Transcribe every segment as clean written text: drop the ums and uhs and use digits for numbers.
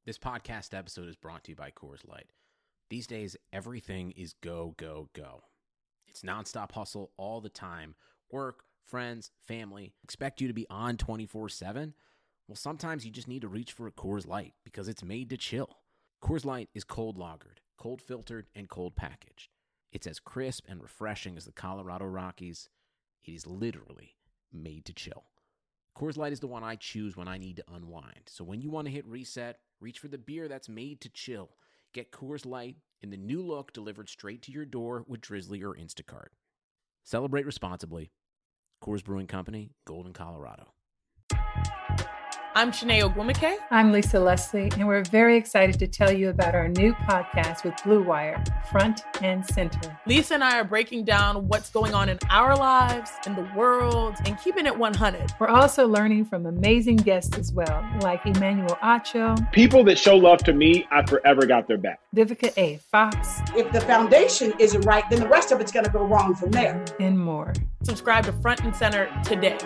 This podcast episode is brought to you by Coors Light. These days, everything is go, go, go. It's nonstop hustle all the time. Work, friends, family, expect you to be on 24/7. Well, sometimes you just need to reach for a Coors Light because it's made to chill. Coors Light is cold lagered, cold filtered, and cold packaged. It's as crisp and refreshing as the Colorado Rockies. It is literally made to chill. Coors Light is the one I choose when I need to unwind. So when you want to hit reset, reach for the beer that's made to chill. Get Coors Light in the new look delivered straight to your door with Drizzly or Instacart. Celebrate responsibly. Coors Brewing Company, Golden, Colorado. I'm Shanae Ogwumike. I'm Lisa Leslie, and we're very excited to tell you about our new podcast with Blue Wire, Front and Center. Lisa and I are breaking down what's going on in our lives, in the world, and keeping it 100. We're also learning from amazing guests as well, like Emmanuel Acho. People that show love to me, I forever got their back. Vivica A. Fox. If the foundation isn't right, then the rest of it's going to go wrong from there. And more. Subscribe to Front and Center today.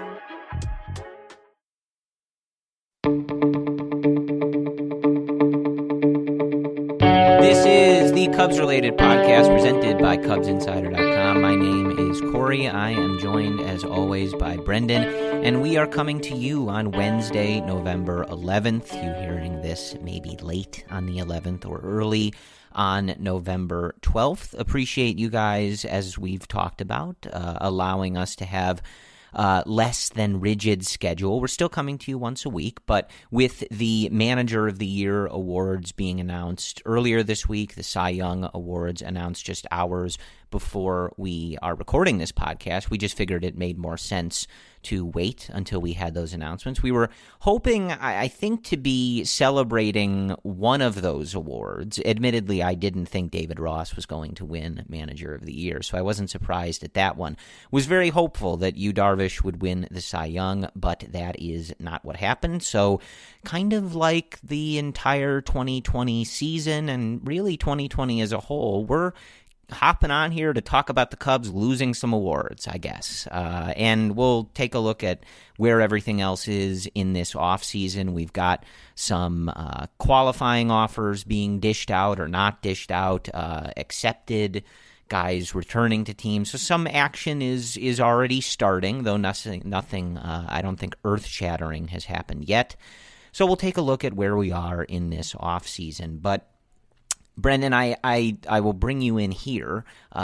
This is the Cubs-related podcast presented by CubsInsider.com. My name is Corey. I am joined, as always, by Brendan, and we are coming to you on Wednesday, November 11th. You hearing this maybe late on the 11th or early on November 12th. Appreciate you guys, as we've talked about, allowing us to have less than rigid schedule. We're still coming to you once a week, but with the Manager of the Year awards being announced earlier this week, the Cy Young Awards announced just hours before we are recording this podcast, we just figured it made more sense to wait until we had those announcements. We were hoping, I think, to be celebrating one of those awards. Admittedly, I didn't think David Ross was going to win Manager of the Year, so I wasn't surprised at that one. Was very hopeful that Yu Darvish would win the Cy Young, but that is not what happened. So kind of like the entire 2020 season and really 2020 as a whole, we're hopping on here to talk about the Cubs losing some awards, I guess. And we'll take a look at where everything else is in this offseason. We've got some qualifying offers being dished out or not dished out, accepted, guys returning to teams. So some action is already starting, though nothing I don't think earth-shattering has happened yet. So we'll take a look at where we are in this offseason. But Brendan, I will bring you in here,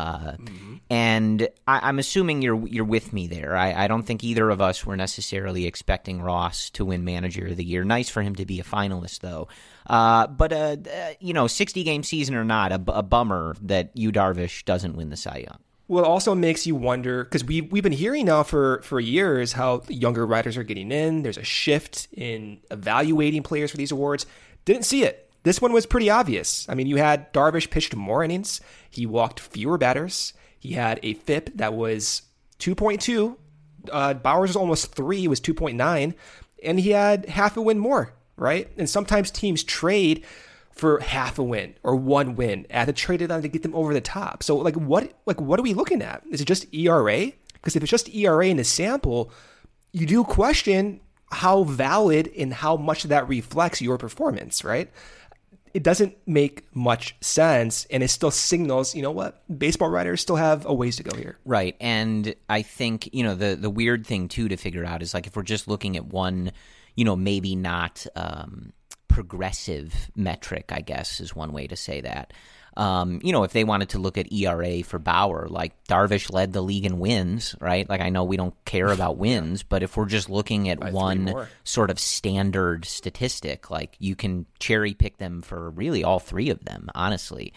and I'm assuming you're with me there. I don't think either of us were necessarily expecting Ross to win Manager of the Year. Nice for him to be a finalist, though. But 60-game season or not, a bummer that Yu Darvish doesn't win the Cy Young. Well, it also makes you wonder, because we've been hearing now for years how younger writers are getting in. There's a shift in evaluating players for these awards. Didn't see it. This one was pretty obvious. I mean, you had Darvish pitched more innings. He walked fewer batters. He had a FIP that was 2.2. Bauer's was almost 3. It was 2.9. And he had half a win more, right? And sometimes teams trade for half a win or one win at the trade deadline to get them over the top. So, what are we looking at? Is it just ERA? Because if it's just ERA in the sample, you do question how valid and how much that reflects your performance, right? It doesn't make much sense, and it still signals, you know what, baseball writers still have a ways to go here. Right, and I think, the weird thing, too, to figure out is, if we're just looking at one, maybe not progressive metric, I guess, is one way to say that. If they wanted to look at ERA for Bauer, Darvish led the league in wins, right? I know we don't care about wins, but if we're just looking at one sort of standard statistic, you can cherry pick them for really all three of them, honestly.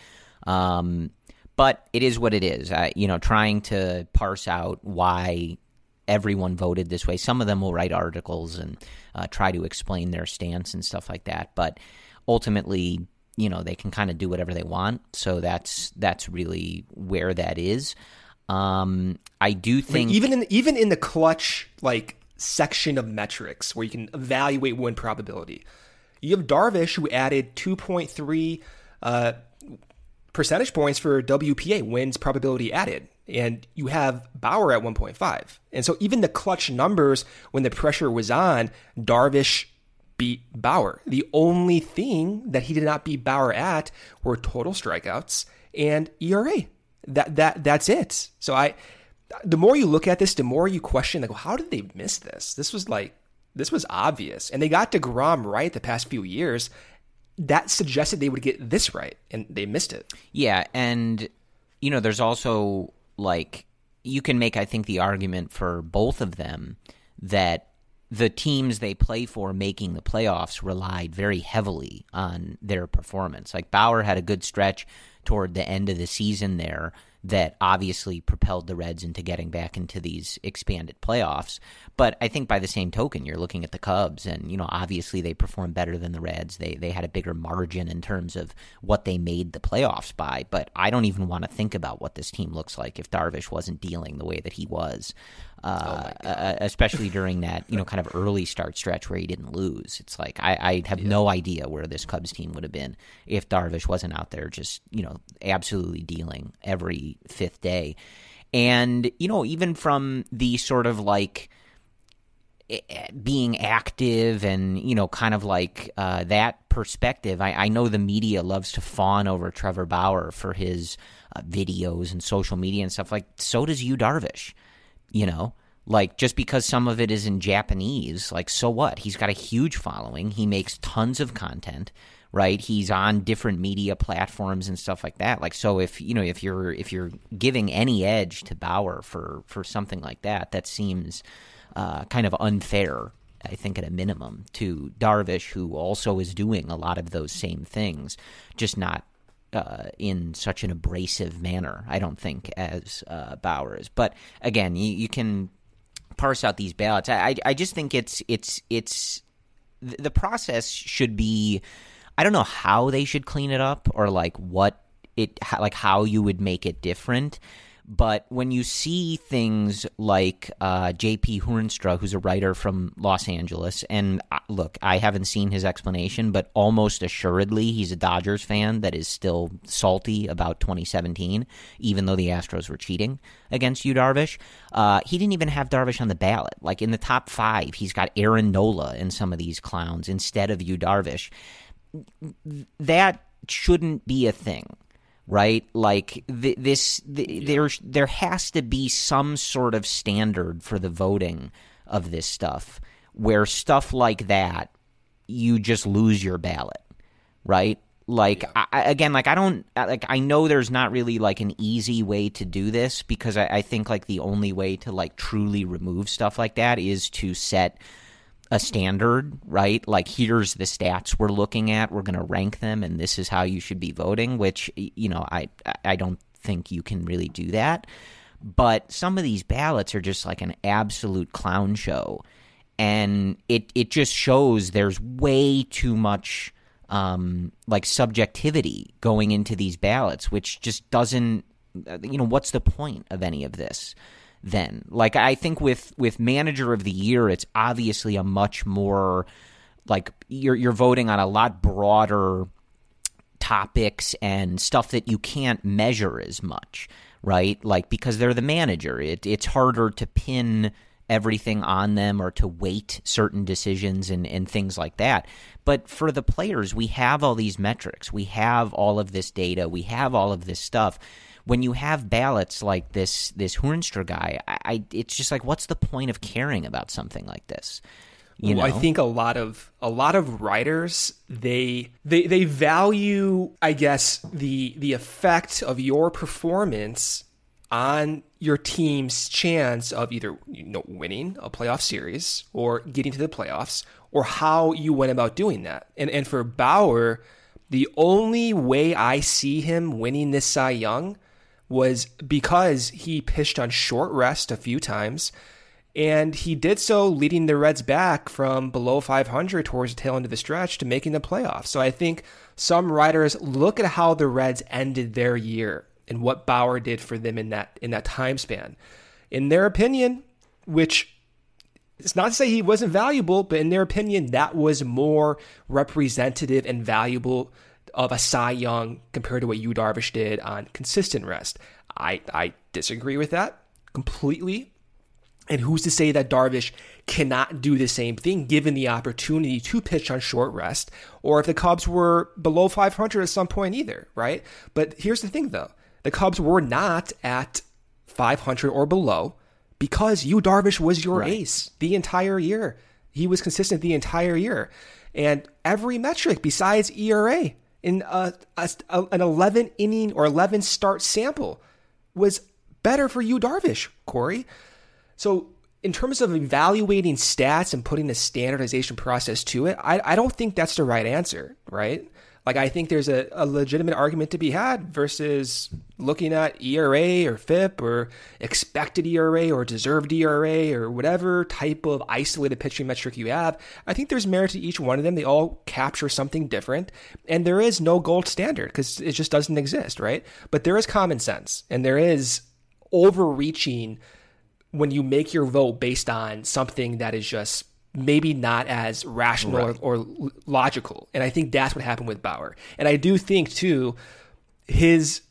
But it is what it is. Trying to parse out why everyone voted this way. Some of them will write articles and try to explain their stance and stuff like that, but ultimately, they can kind of do whatever they want. So that's really where that is. I do think even in the clutch section of metrics where you can evaluate win probability, you have Darvish who added 2.3 percentage points for WPA, wins probability added, and you have Bauer at 1.5. And so even the clutch numbers when the pressure was on, Darvish beat Bauer. The only thing that he did not beat Bauer at were total strikeouts and ERA. That's it. So the more you look at this, the more you question, like, well, how did they miss this? This was obvious. And they got DeGrom right the past few years. That suggested they would get this right, and they missed it. Yeah, and, there's also, like, you can make, I think, the argument for both of them that the teams they play for making the playoffs relied very heavily on their performance. Like, Bauer had a good stretch toward the end of the season there that obviously propelled the Reds into getting back into these expanded playoffs. But I think by the same token, you're looking at the Cubs, and obviously they performed better than the Reds. They had a bigger margin in terms of what they made the playoffs by. But I don't even want to think about what this team looks like if Darvish wasn't dealing the way that he was, especially during that kind of early start stretch where he didn't lose. It's like I have no idea where this Cubs team would have been if Darvish wasn't out there just absolutely dealing every fifth day. And even from the sort of like being active and kind of like that perspective, I know the media loves to fawn over Trevor Bauer for his videos and social media and stuff. Like, so does Yu Darvish. Like, just because some of it is in Japanese, like, so what? He's got a huge following. He makes tons of content, right? He's on different media platforms and stuff like that. Like, so if you're giving any edge to Bauer for something like that, that seems kind of unfair, I think, at a minimum, to Darvish, who also is doing a lot of those same things, just not in such an abrasive manner, I don't think, as Bauer is. But again, you can parse out these ballots. I just think it's the process should be. I don't know how they should clean it up or like how you would make it different. But when you see things like J.P. Hoornstra, who's a writer from Los Angeles, and look, I haven't seen his explanation, but almost assuredly he's a Dodgers fan that is still salty about 2017, even though the Astros were cheating against Yu Darvish. He didn't even have Darvish on the ballot. Like, in the top 5, he's got Aaron Nola and some of these clowns instead of Yu Darvish. That shouldn't be a thing. Right? Like, there has to be some sort of standard for the voting of this stuff, where stuff like that, you just lose your ballot, right? Like, yeah. I know there's not really like an easy way to do this, because I think like the only way to like truly remove stuff like that is to set a standard, right? Like, here's the stats we're looking at, we're going to rank them, and this is how you should be voting, which, I don't think you can really do that. But some of these ballots are just like an absolute clown show, and it just shows there's way too much like subjectivity going into these ballots, which just doesn't, what's the point of any of this? Then, like, I think with Manager of the Year, it's obviously a much more like you're voting on a lot broader topics and stuff that you can't measure as much, right? Like, because they're the manager, it's harder to pin everything on them or to weight certain decisions and things like that. But for the players, we have all these metrics, we have all of this data, we have all of this stuff. When you have ballots like this Hoornstra guy, it's just like, what's the point of caring about something like this? I think a lot of writers, they value, I guess, the effect of your performance on your team's chance of either winning a playoff series or getting to the playoffs, or how you went about doing that. And for Bauer, the only way I see him winning this Cy Young was because he pitched on short rest a few times, and he did so leading the Reds back from below 500 towards the tail end of the stretch to making the playoffs. So I think some writers look at how the Reds ended their year and what Bauer did for them in that time span. In their opinion, which it's not to say he wasn't valuable, but in their opinion, that was more representative and valuable of a Cy Young compared to what Yu Darvish did on consistent rest. I disagree with that completely. And who's to say that Darvish cannot do the same thing given the opportunity to pitch on short rest, or if the Cubs were below 500 at some point either, right? But here's the thing, though. The Cubs were not at 500 or below because Yu Darvish was your ace the entire year. He was consistent the entire year. And every metric besides ERA in an 11 inning or 11 start sample was better for Yu Darvish, Corey. So in terms of evaluating stats and putting a standardization process to it, I don't think that's the right answer, right? Like, I think there's a legitimate argument to be had versus looking at ERA or FIP or expected ERA or deserved ERA or whatever type of isolated pitching metric you have. I think there's merit to each one of them. They all capture something different, and there is no gold standard because it just doesn't exist, right? But there is common sense, and there is overreaching when you make your vote based on something that is just maybe not as rational or logical. And I think that's what happened with Bauer. And I do think, too, his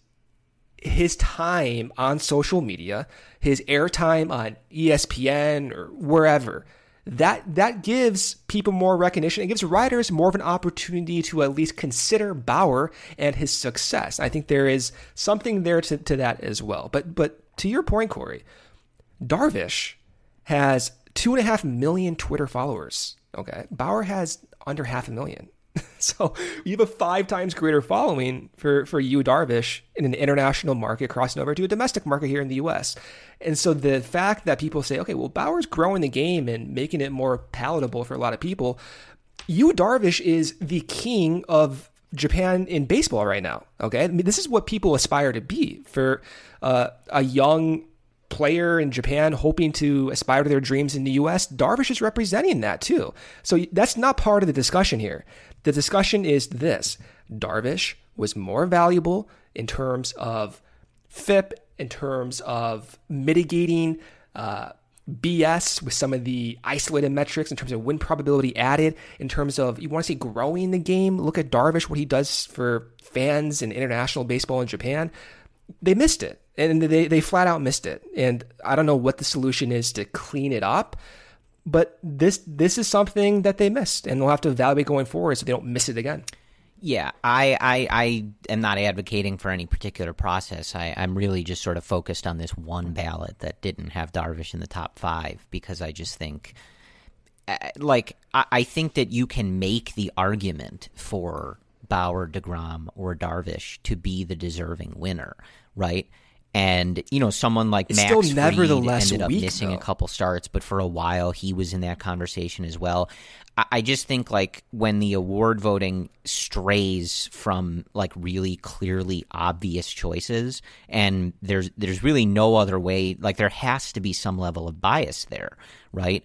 time on social media, his airtime on ESPN or wherever, that gives people more recognition. It gives writers more of an opportunity to at least consider Bauer and his success. I think there is something there to that as well. But to your point, Corey, Darvish has 2.5 million Twitter followers. Okay. Bauer has under 500,000. So you have a 5 times greater following for Yu Darvish in an international market crossing over to a domestic market here in the US. And so the fact that people say, okay, well, Bauer's growing the game and making it more palatable for a lot of people. Yu Darvish is the king of Japan in baseball right now. Okay. I mean, this is what people aspire to be for a young player in Japan hoping to aspire to their dreams in the US. Darvish is representing that too. So that's not part of the discussion here. The discussion is this: Darvish was more valuable in terms of FIP, in terms of mitigating BS with some of the isolated metrics, in terms of win probability added, in terms of, you want to say growing the game, look at Darvish, what he does for fans in international baseball in Japan. They missed it. And they flat out missed it. And I don't know what the solution is to clean it up, but this is something that they missed, and they'll have to evaluate going forward so they don't miss it again. Yeah, I am not advocating for any particular process. I'm really just sort of focused on this one ballot that didn't have Darvish in the top 5, because I just think, I think that you can make the argument for Bauer, DeGrom, or Darvish to be the deserving winner, right? And, someone like Max Fried ended up missing a couple starts, but for a while he was in that conversation as well. I just think, when the award voting strays from, really clearly obvious choices, and there's really no other way, there has to be some level of bias there, right?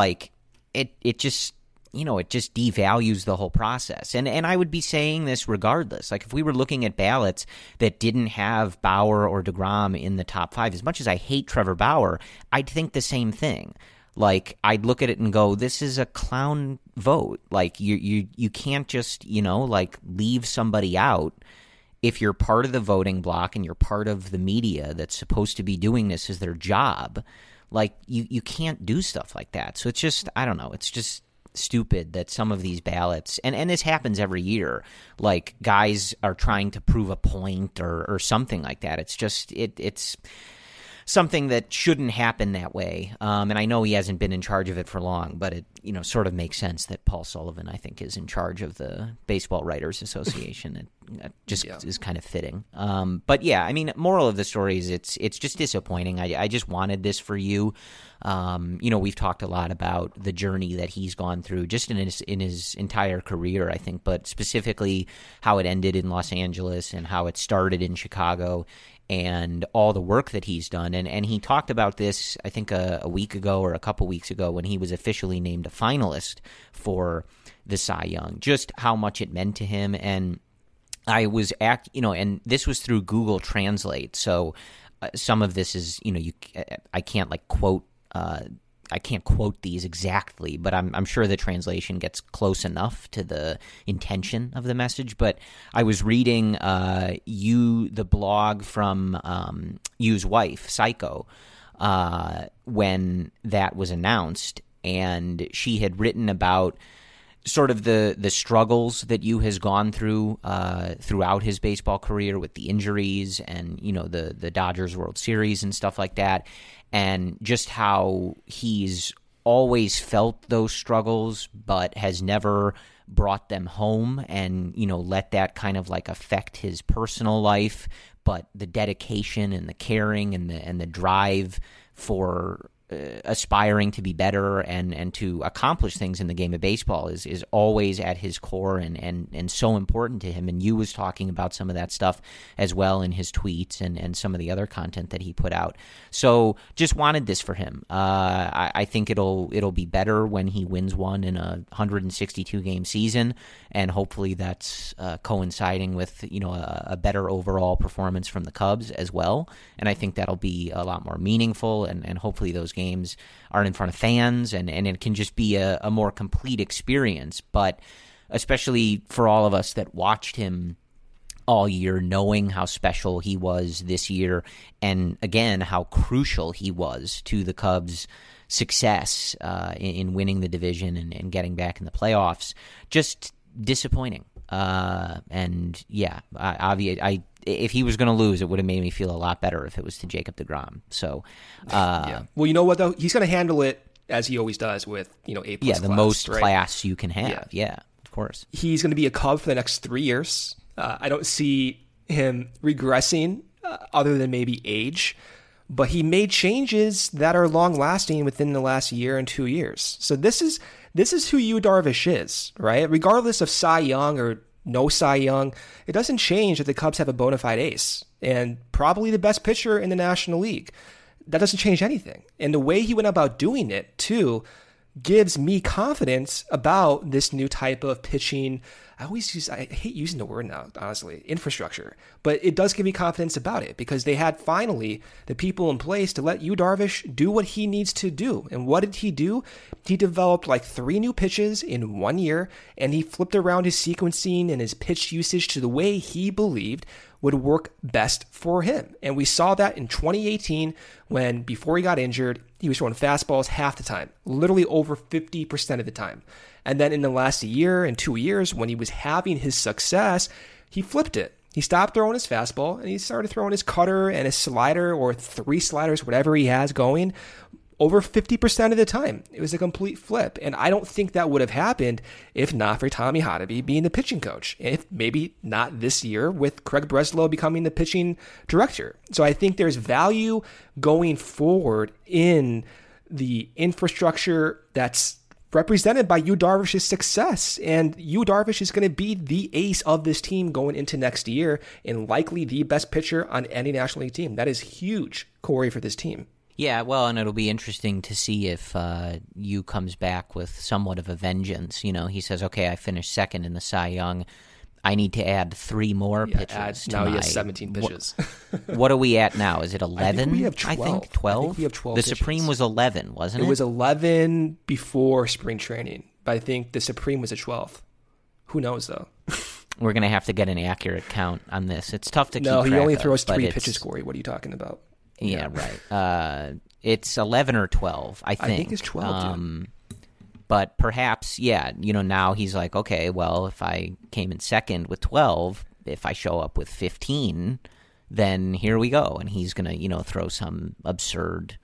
It just... it just devalues the whole process. And I would be saying this regardless. If we were looking at ballots that didn't have Bauer or DeGrom in the top 5, as much as I hate Trevor Bauer, I'd think the same thing. I'd look at it and go, this is a clown vote. You can't just, leave somebody out if you're part of the voting block and you're part of the media that's supposed to be doing this as their job. You can't do stuff like that. So it's just, I don't know, it's just stupid that some of these ballots, and this happens every year, guys are trying to prove a point or something like that. It's just it's something that shouldn't happen that way. And I know he hasn't been in charge of it for long, but it sort of makes sense that Paul Sullivan, I think, is in charge of the Baseball Writers Association. It just is kind of fitting. But yeah, I mean, moral of the story is it's just disappointing. I just wanted this for you. We've talked a lot about the journey that he's gone through just in his entire career, I think, but specifically how it ended in Los Angeles and how it started in Chicago and all the work that he's done. And he talked about this, I think, a week ago or a couple weeks ago when he was officially named a finalist for the Cy Young, just how much it meant to him. And I was and this was through Google Translate. So some of this is, I can't quote, I can't quote these exactly, but I'm sure the translation gets close enough to the intention of the message. But I was reading the blog from Yu's wife, Psycho, when that was announced, and she had written about sort of the struggles that Yu has gone through throughout his baseball career with the injuries and, the Dodgers World Series and stuff like that, and just how he's always felt those struggles but has never brought them home and, let that kind of like affect his personal life. But the dedication and the caring and the drive for aspiring to be better and to accomplish things in the game of baseball is always at his core and so important to him. And Yu was talking about some of that stuff as well in his tweets and some of the other content that he put out. So just wanted this for him. I think it'll be better when he wins one in a 162 game season, and hopefully that's coinciding with a better overall performance from the Cubs as well. And I think that'll be a lot more meaningful, and hopefully those games are in front of fans, and it can just be a more complete experience. But especially for all of us that watched him all year, knowing how special he was this year, and again, how crucial he was to the Cubs' success in winning the division and getting back in the playoffs, just disappointing. And yeah, if he was going to lose, it would have made me feel a lot better if it was to Jacob deGrom. So, yeah. Well, you know what though? He's going to handle it as he always does with A+. Yeah, the class, most right? class you can have. Yeah, of course. He's going to be a Cub for the next 3 years. I don't see him regressing other than maybe age, but he made changes that are long lasting within the last year and 2 years. So this is who Yu Darvish is, right? Regardless of Cy Young or no Cy Young, it doesn't change that the Cubs have a bona fide ace and probably the best pitcher in the National League. That doesn't change anything. And the way he went about doing it, too, gives me confidence about this new type of pitching. I hate using the word now, honestly, infrastructure, but it does give me confidence about it because they had finally the people in place to let Yu Darvish do what he needs to do. And what did he do? He developed like 3 new pitches in 1 year, and he flipped around his sequencing and his pitch usage to the way he believed would work best for him. And we saw that in 2018 when, before he got injured, he was throwing fastballs half the time, literally over 50% of the time. And then in the last year and 2 years, when he was having his success, he flipped it. He stopped throwing his fastball and he started throwing his cutter and his slider, or 3 sliders, whatever he has going, over 50% of the time. It was a complete flip. And I don't think that would have happened if not for Tommy Hotovy being the pitching coach. If maybe not this year with Craig Breslow becoming the pitching director. So I think there's value going forward in the infrastructure that's represented by Yu Darvish's success. And Yu Darvish is going to be the ace of this team going into next year and likely the best pitcher on any National League team. That is huge, Corey, for this team. Yeah, well, and it'll be interesting to see if Yu comes back with somewhat of a vengeance. He says, okay, I finished second in the Cy Young. I need to add 3 more pitches. Now he has 17 pitches. What are we at now? Is it 11? I think we have 12. I think 12? I think we have 12 The pitches. Supreme was 11, wasn't it? It was 11 before spring training, but I think the Supreme was a 12th. Who knows, though? We're going to have to get an accurate count on this. It's tough to keep No, track he only of, throws but 3 pitches, Corey. What are you talking about? Yeah, right. It's 11 or 12, I think. I think it's 12, dude. But perhaps, now he's like, okay, well, if I came in second with 12, if I show up with 15, then here we go. And he's going to, throw some absurd...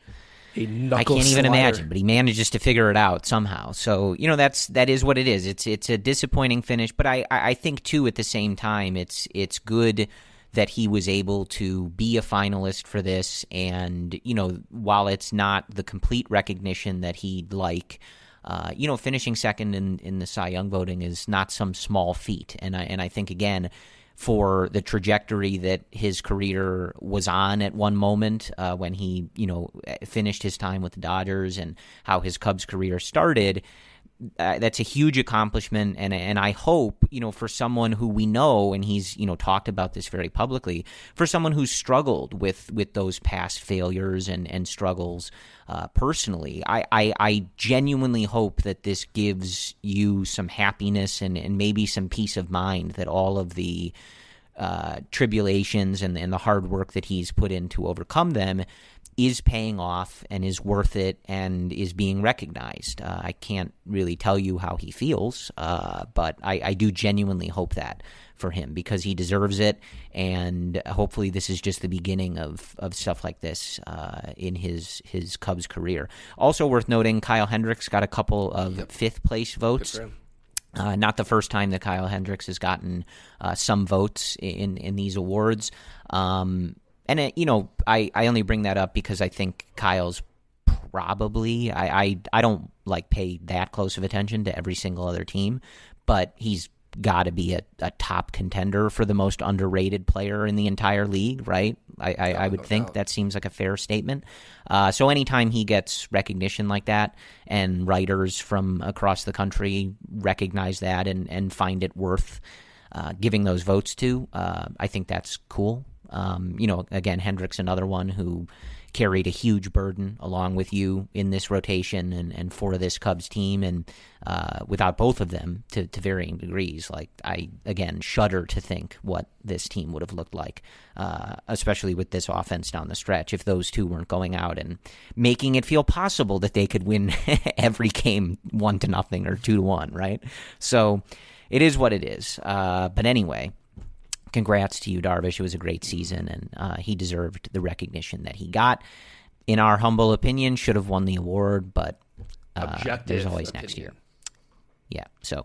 I can't even imagine, but he manages to figure it out somehow. So, that is what it is. It's a disappointing finish, but I think, too, at the same time, it's good that he was able to be a finalist for this. And, while it's not the complete recognition that he'd like... finishing second in the Cy Young voting is not some small feat. And I think, again, for the trajectory that his career was on at one moment when he, finished his time with the Dodgers and how his Cubs career started, that's a huge accomplishment. And I hope, for someone who we know, and he's, talked about this very publicly, for someone who's struggled with those past failures and struggles personally, I genuinely hope that this gives you some happiness and maybe some peace of mind that all of the tribulations and the hard work that he's put in to overcome them is paying off and is worth it and is being recognized. I can't really tell you how he feels, but I do genuinely hope that for him because he deserves it, and hopefully this is just the beginning of stuff like this in his Cubs career. Also worth noting, Kyle Hendricks got a couple of fifth-place votes. Not the first time that Kyle Hendricks has gotten some votes in these awards. And, I only bring that up because I think Kyle's probably, I don't pay that close of attention to every single other team, but he's got to be a top contender for the most underrated player in the entire league, right? I would think that seems like a fair statement. So anytime he gets recognition like that and writers from across the country recognize that and find it worth giving those votes to, I think that's cool. Again, Hendricks, another one who carried a huge burden along with you in this rotation and for this Cubs team, and without both of them to varying degrees, I again shudder to think what this team would have looked like, especially with this offense down the stretch, if those two weren't going out and making it feel possible that they could win every game 1-0 or 2-1, right? So it is what it is. But anyway, congrats to you, Darvish. It was a great season, and he deserved the recognition that he got. In our humble opinion, should have won the award, but there's always next year. Yeah, so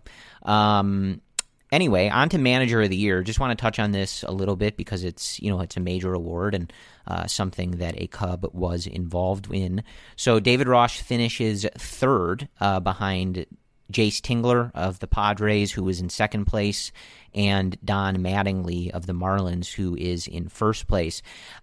anyway, on to Manager of the Year. Just want to touch on this a little bit because it's a major award and something that a Cub was involved in. So David Ross finishes third behind Jace Tingler of the Padres, who was in second place, and Don Mattingly of the Marlins, who is in first place.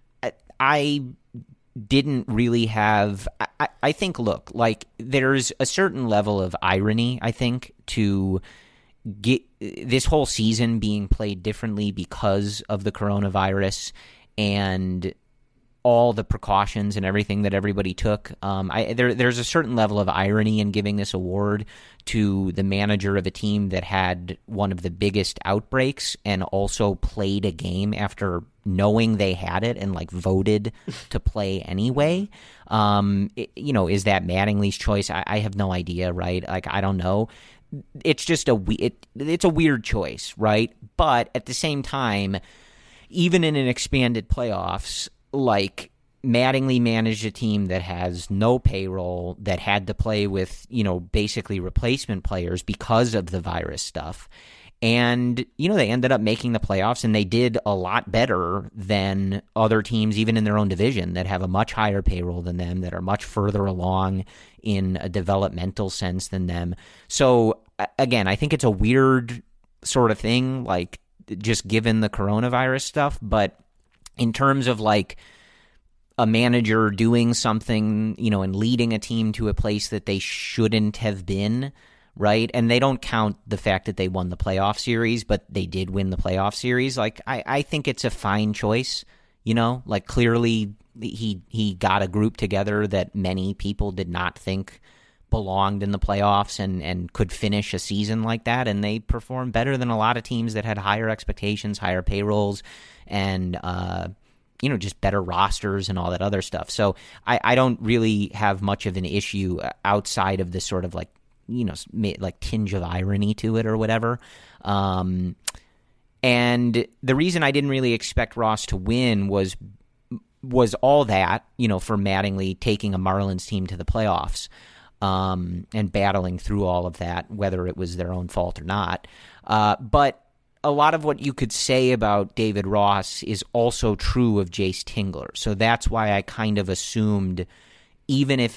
I didn't really have – I think, look, there's a certain level of irony, I think, to get this whole season being played differently because of the coronavirus and all the precautions and everything that everybody took. There's a certain level of irony in giving this award to the manager of a team that had one of the biggest outbreaks and also played a game after knowing they had it and voted to play anyway. Is that Mattingly's choice? I have no idea, right? I don't know. It's just it's a weird choice, right? But at the same time, even in an expanded playoffs, Mattingly managed a team that has no payroll, that had to play with, basically replacement players because of the virus stuff. And, they ended up making the playoffs, and they did a lot better than other teams, even in their own division, that have a much higher payroll than them, that are much further along in a developmental sense than them. So, again, I think it's a weird sort of thing, just given the coronavirus stuff. But in terms of a manager doing something, and leading a team to a place that they shouldn't have been, right? And they don't count the fact that they won the playoff series, but they did win the playoff series. I think it's a fine choice, clearly he got a group together that many people did not think belonged in the playoffs and could finish a season like that, and they performed better than a lot of teams that had higher expectations, higher payrolls, and just better rosters and all that other stuff. So I don't really have much of an issue outside of this sort of tinge of irony to it or whatever. And the reason I didn't really expect Ross to win was all that, for Mattingly taking a Marlins team to the playoffs and battling through all of that, whether it was their own fault or not. But a lot of what you could say about David Ross is also true of Jace Tingler. So that's why I kind of assumed even if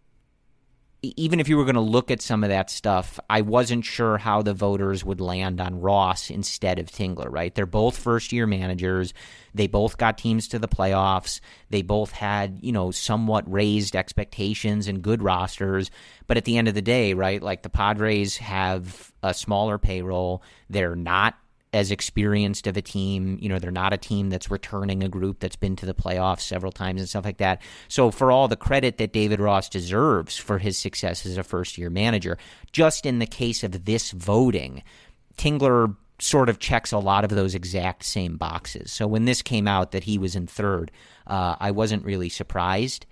you were going to look at some of that stuff, I wasn't sure how the voters would land on Ross instead of Tingler, right? They're both first-year managers. They both got teams to the playoffs. They both had, somewhat raised expectations and good rosters. But at the end of the day, right, the Padres have a smaller payroll. They're not as experienced of a team. They're not a team that's returning a group that's been to the playoffs several times and stuff like that. So for all the credit that David Ross deserves for his success as a first-year manager, just in the case of this voting, Tingler sort of checks a lot of those exact same boxes. So when this came out that he was in third, I wasn't really surprised.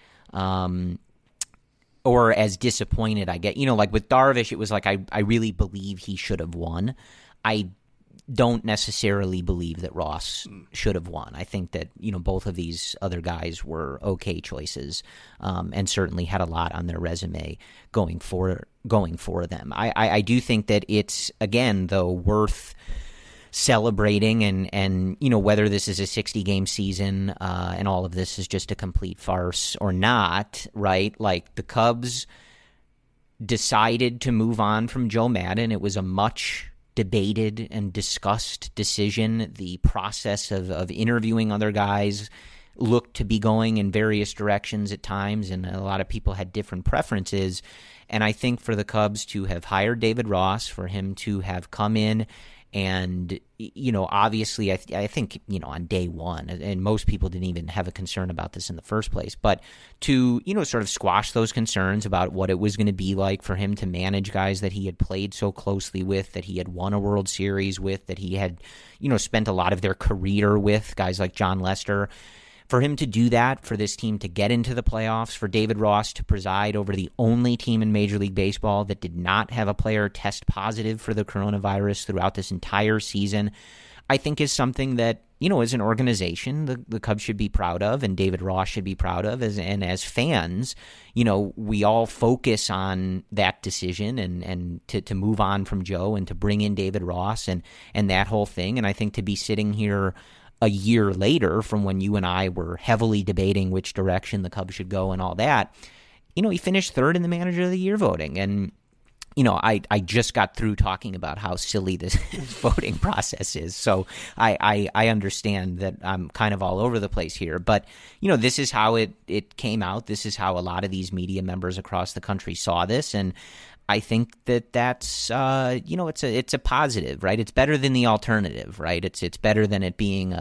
Or as disappointed, I get. Like with Darvish, it was like I really believe he should have won. I don't necessarily believe that Ross should have won. I think that, both of these other guys were okay choices, and certainly had a lot on their resume going for them. I do think that it's, again, though, worth celebrating and whether this is a 60-game season and all of this is just a complete farce or not, right? Like the Cubs decided to move on from Joe Maddon. It was a much debated and discussed decision. The process of interviewing other guys looked to be going in various directions at times, and a lot of people had different preferences. And I think for the Cubs to have hired David Ross, for him to have come in and, obviously, I think, on day one, and most people didn't even have a concern about this in the first place, but to, sort of squash those concerns about what it was going to be like for him to manage guys that he had played so closely with, that he had won a World Series with, that he had, spent a lot of their career with, guys like John Lester. For him to do that, for this team to get into the playoffs, for David Ross to preside over the only team in Major League Baseball that did not have a player test positive for the coronavirus throughout this entire season, I think is something that, as an organization, the Cubs should be proud of, and David Ross should be proud of. And as fans, we all focus on that decision and to move on from Joe and to bring in David Ross and that whole thing. And I think to be sitting here a year later from when you and I were heavily debating which direction the Cubs should go and all that, he finished third in the Manager of the Year voting. And, I just got through talking about how silly this voting process is. So I understand that I'm kind of all over the place here. But, this is how it came out. This is how a lot of these media members across the country saw this. And I think that's it's a positive, right? It's better than the alternative, right? It's better than it being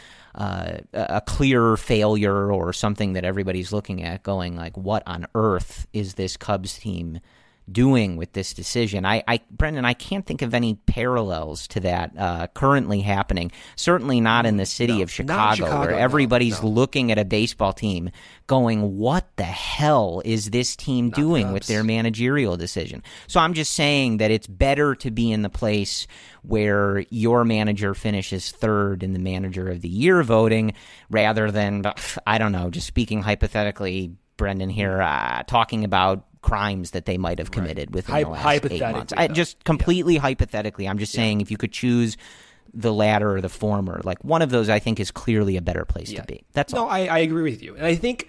a clear failure or something that everybody's looking at going like, what on earth is this Cubs team doing with this decision? Brendan, I can't think of any parallels to that currently happening. Certainly not in the city of Chicago, where everybody's looking at a baseball team going, what the hell is this team doing with their managerial decision? So I'm just saying that it's better to be in the place where your manager finishes third in the Manager of the Year voting rather than, I don't know, just speaking hypothetically, Brendan here, talking about crimes that they might have committed within the last 8 months. Just completely hypothetically, I'm just saying if you could choose the latter or the former, like one of those I think is clearly a better place to be. That's all. No, I agree with you. And I think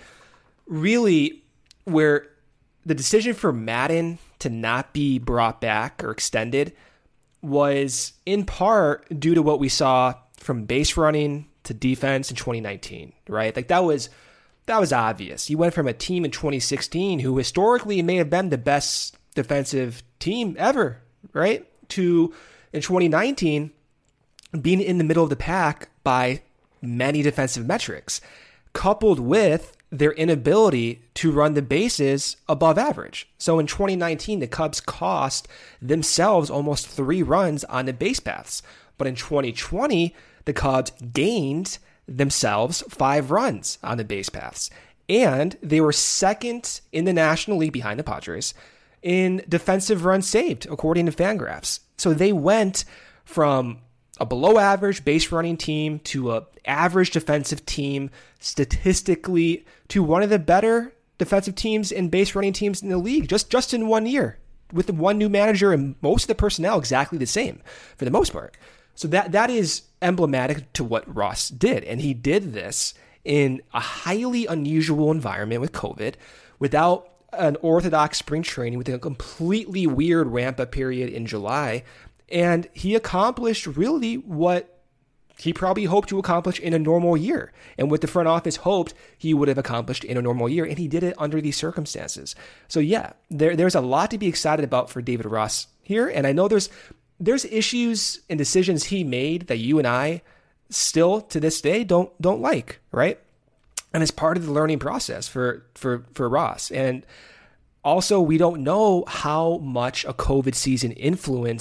really where the decision for Maddon to not be brought back or extended was in part due to what we saw from base running to defense in 2019, right? Like that was obvious. You went from a team in 2016 who historically may have been the best defensive team ever, right? To in 2019 being in the middle of the pack by many defensive metrics, coupled with their inability to run the bases above average. So in 2019, the Cubs cost themselves almost 3 runs on the base paths. But in 2020, the Cubs gained themselves 5 runs on the base paths. And they were second in the National League behind the Padres in defensive runs saved, according to Fangraphs. So they went from a below average base running team to a average defensive team, statistically to one of the better defensive teams and base running teams in the league just in 1 year, with the one new manager and most of the personnel exactly the same for the most part. So that is emblematic to what Ross did. And he did this in a highly unusual environment with COVID, without an orthodox spring training, with a completely weird ramp-up period in July. And he accomplished really what he probably hoped to accomplish in a normal year, and what the front office hoped he would have accomplished in a normal year. And he did it under these circumstances. So yeah, there's a lot to be excited about for David Ross here. And I know there's issues and decisions he made that you and I still to this day don't like, right? And it's part of the learning process for Ross. And also, we don't know how much a COVID season influenced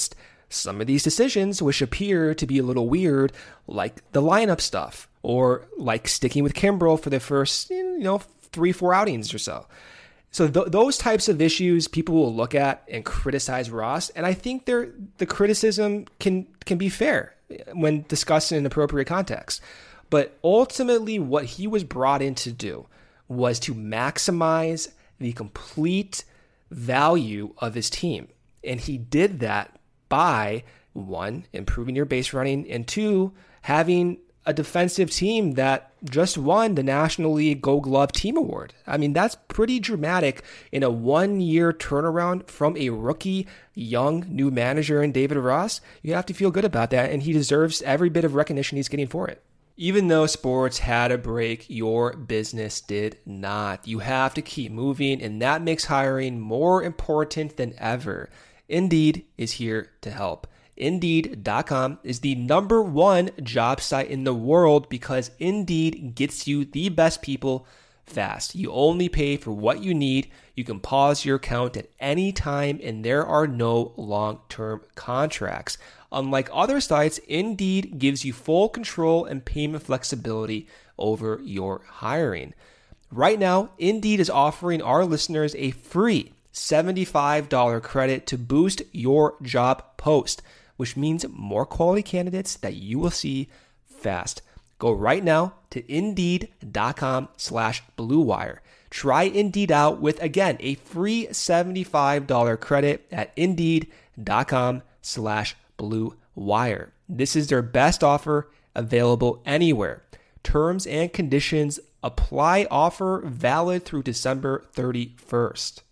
some of these decisions, which appear to be a little weird, like the lineup stuff, or like sticking with Kimbrel for the first, 3-4 outings or so. So those types of issues people will look at and criticize Ross, and I think the criticism can be fair when discussed in an appropriate context. But ultimately, what he was brought in to do was to maximize the complete value of his team. And he did that by, 1, improving your base running, and 2, having a defensive team that just won the National League Gold Glove Team Award. I mean, that's pretty dramatic in a 1-year turnaround from a rookie, young, new manager in David Ross. You have to feel good about that, and he deserves every bit of recognition he's getting for it. Even though sports had a break, your business did not. You have to keep moving, and that makes hiring more important than ever. Indeed is here to help. Indeed.com is the #1 job site in the world because Indeed gets you the best people fast. You only pay for what you need. You can pause your account at any time, and there are no long-term contracts. Unlike other sites, Indeed gives you full control and payment flexibility over your hiring. Right now, Indeed is offering our listeners a free $75 credit to boost your job post, which means more quality candidates that you will see fast. Go right now to Indeed.com/Blue Wire. Try Indeed out with, again, a free $75 credit at Indeed.com/Blue Wire. This is their best offer available anywhere. Terms and conditions apply. Offer valid through December 31st.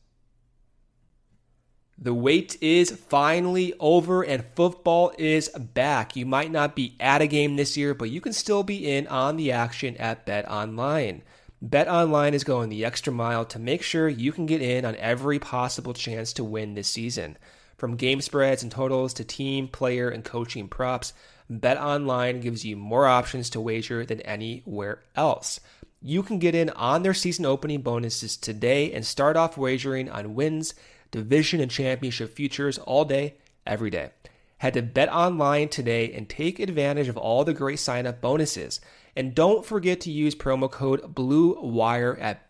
The wait is finally over and football is back. You might not be at a game this year, but you can still be in on the action at BetOnline. BetOnline is going the extra mile to make sure you can get in on every possible chance to win this season. From game spreads and totals to team, player, and coaching props, BetOnline gives you more options to wager than anywhere else. You can get in on their season opening bonuses today and start off wagering on wins, division, and championship futures all day, every day. Head to BetOnline today and take advantage of all the great sign-up bonuses. And don't forget to use promo code BLUEWIRE at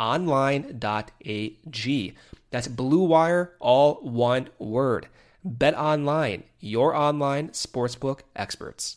betonline.ag. That's Blue Wire, all one word. BetOnline, your online sportsbook experts.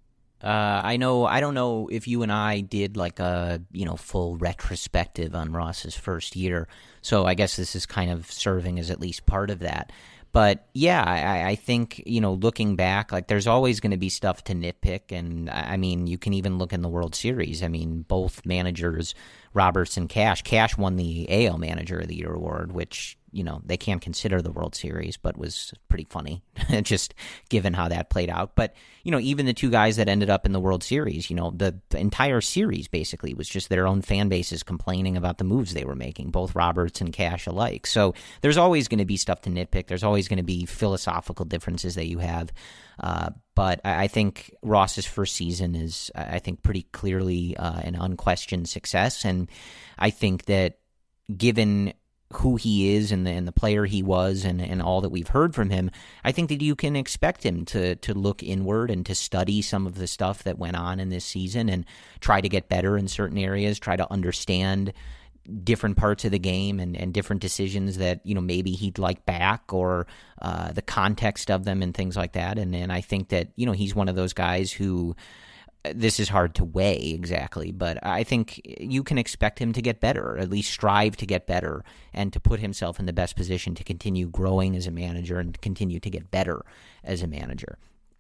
I don't know if you and I did like a, full retrospective on Ross's first year. So I guess this is kind of serving as at least part of that. But yeah, I think, looking back, like there's always going to be stuff to nitpick. And I mean, you can even look in the World Series. I mean, both managers, Roberts and Cash won the AL Manager of the Year award, which, they can't consider the World Series, but was pretty funny, just given how that played out. But, even the two guys that ended up in the World Series, the entire series basically was just their own fan bases complaining about the moves they were making, both Roberts and Cash alike. So there's always going to be stuff to nitpick. There's always going to be philosophical differences that you have. But I think Ross's first season is, I think, pretty clearly an unquestioned success. And I think that given who he is and the player he was and all that we've heard from him, I think that you can expect him to look inward and to study some of the stuff that went on in this season and try to get better in certain areas, try to understand different parts of the game and different decisions that, maybe he'd like back or the context of them and things like that. And I think that, he's one of those guys who, this is hard to weigh exactly, but I think you can expect him to get better, or at least strive to get better and to put himself in the best position to continue growing as a manager and continue to get better as a manager.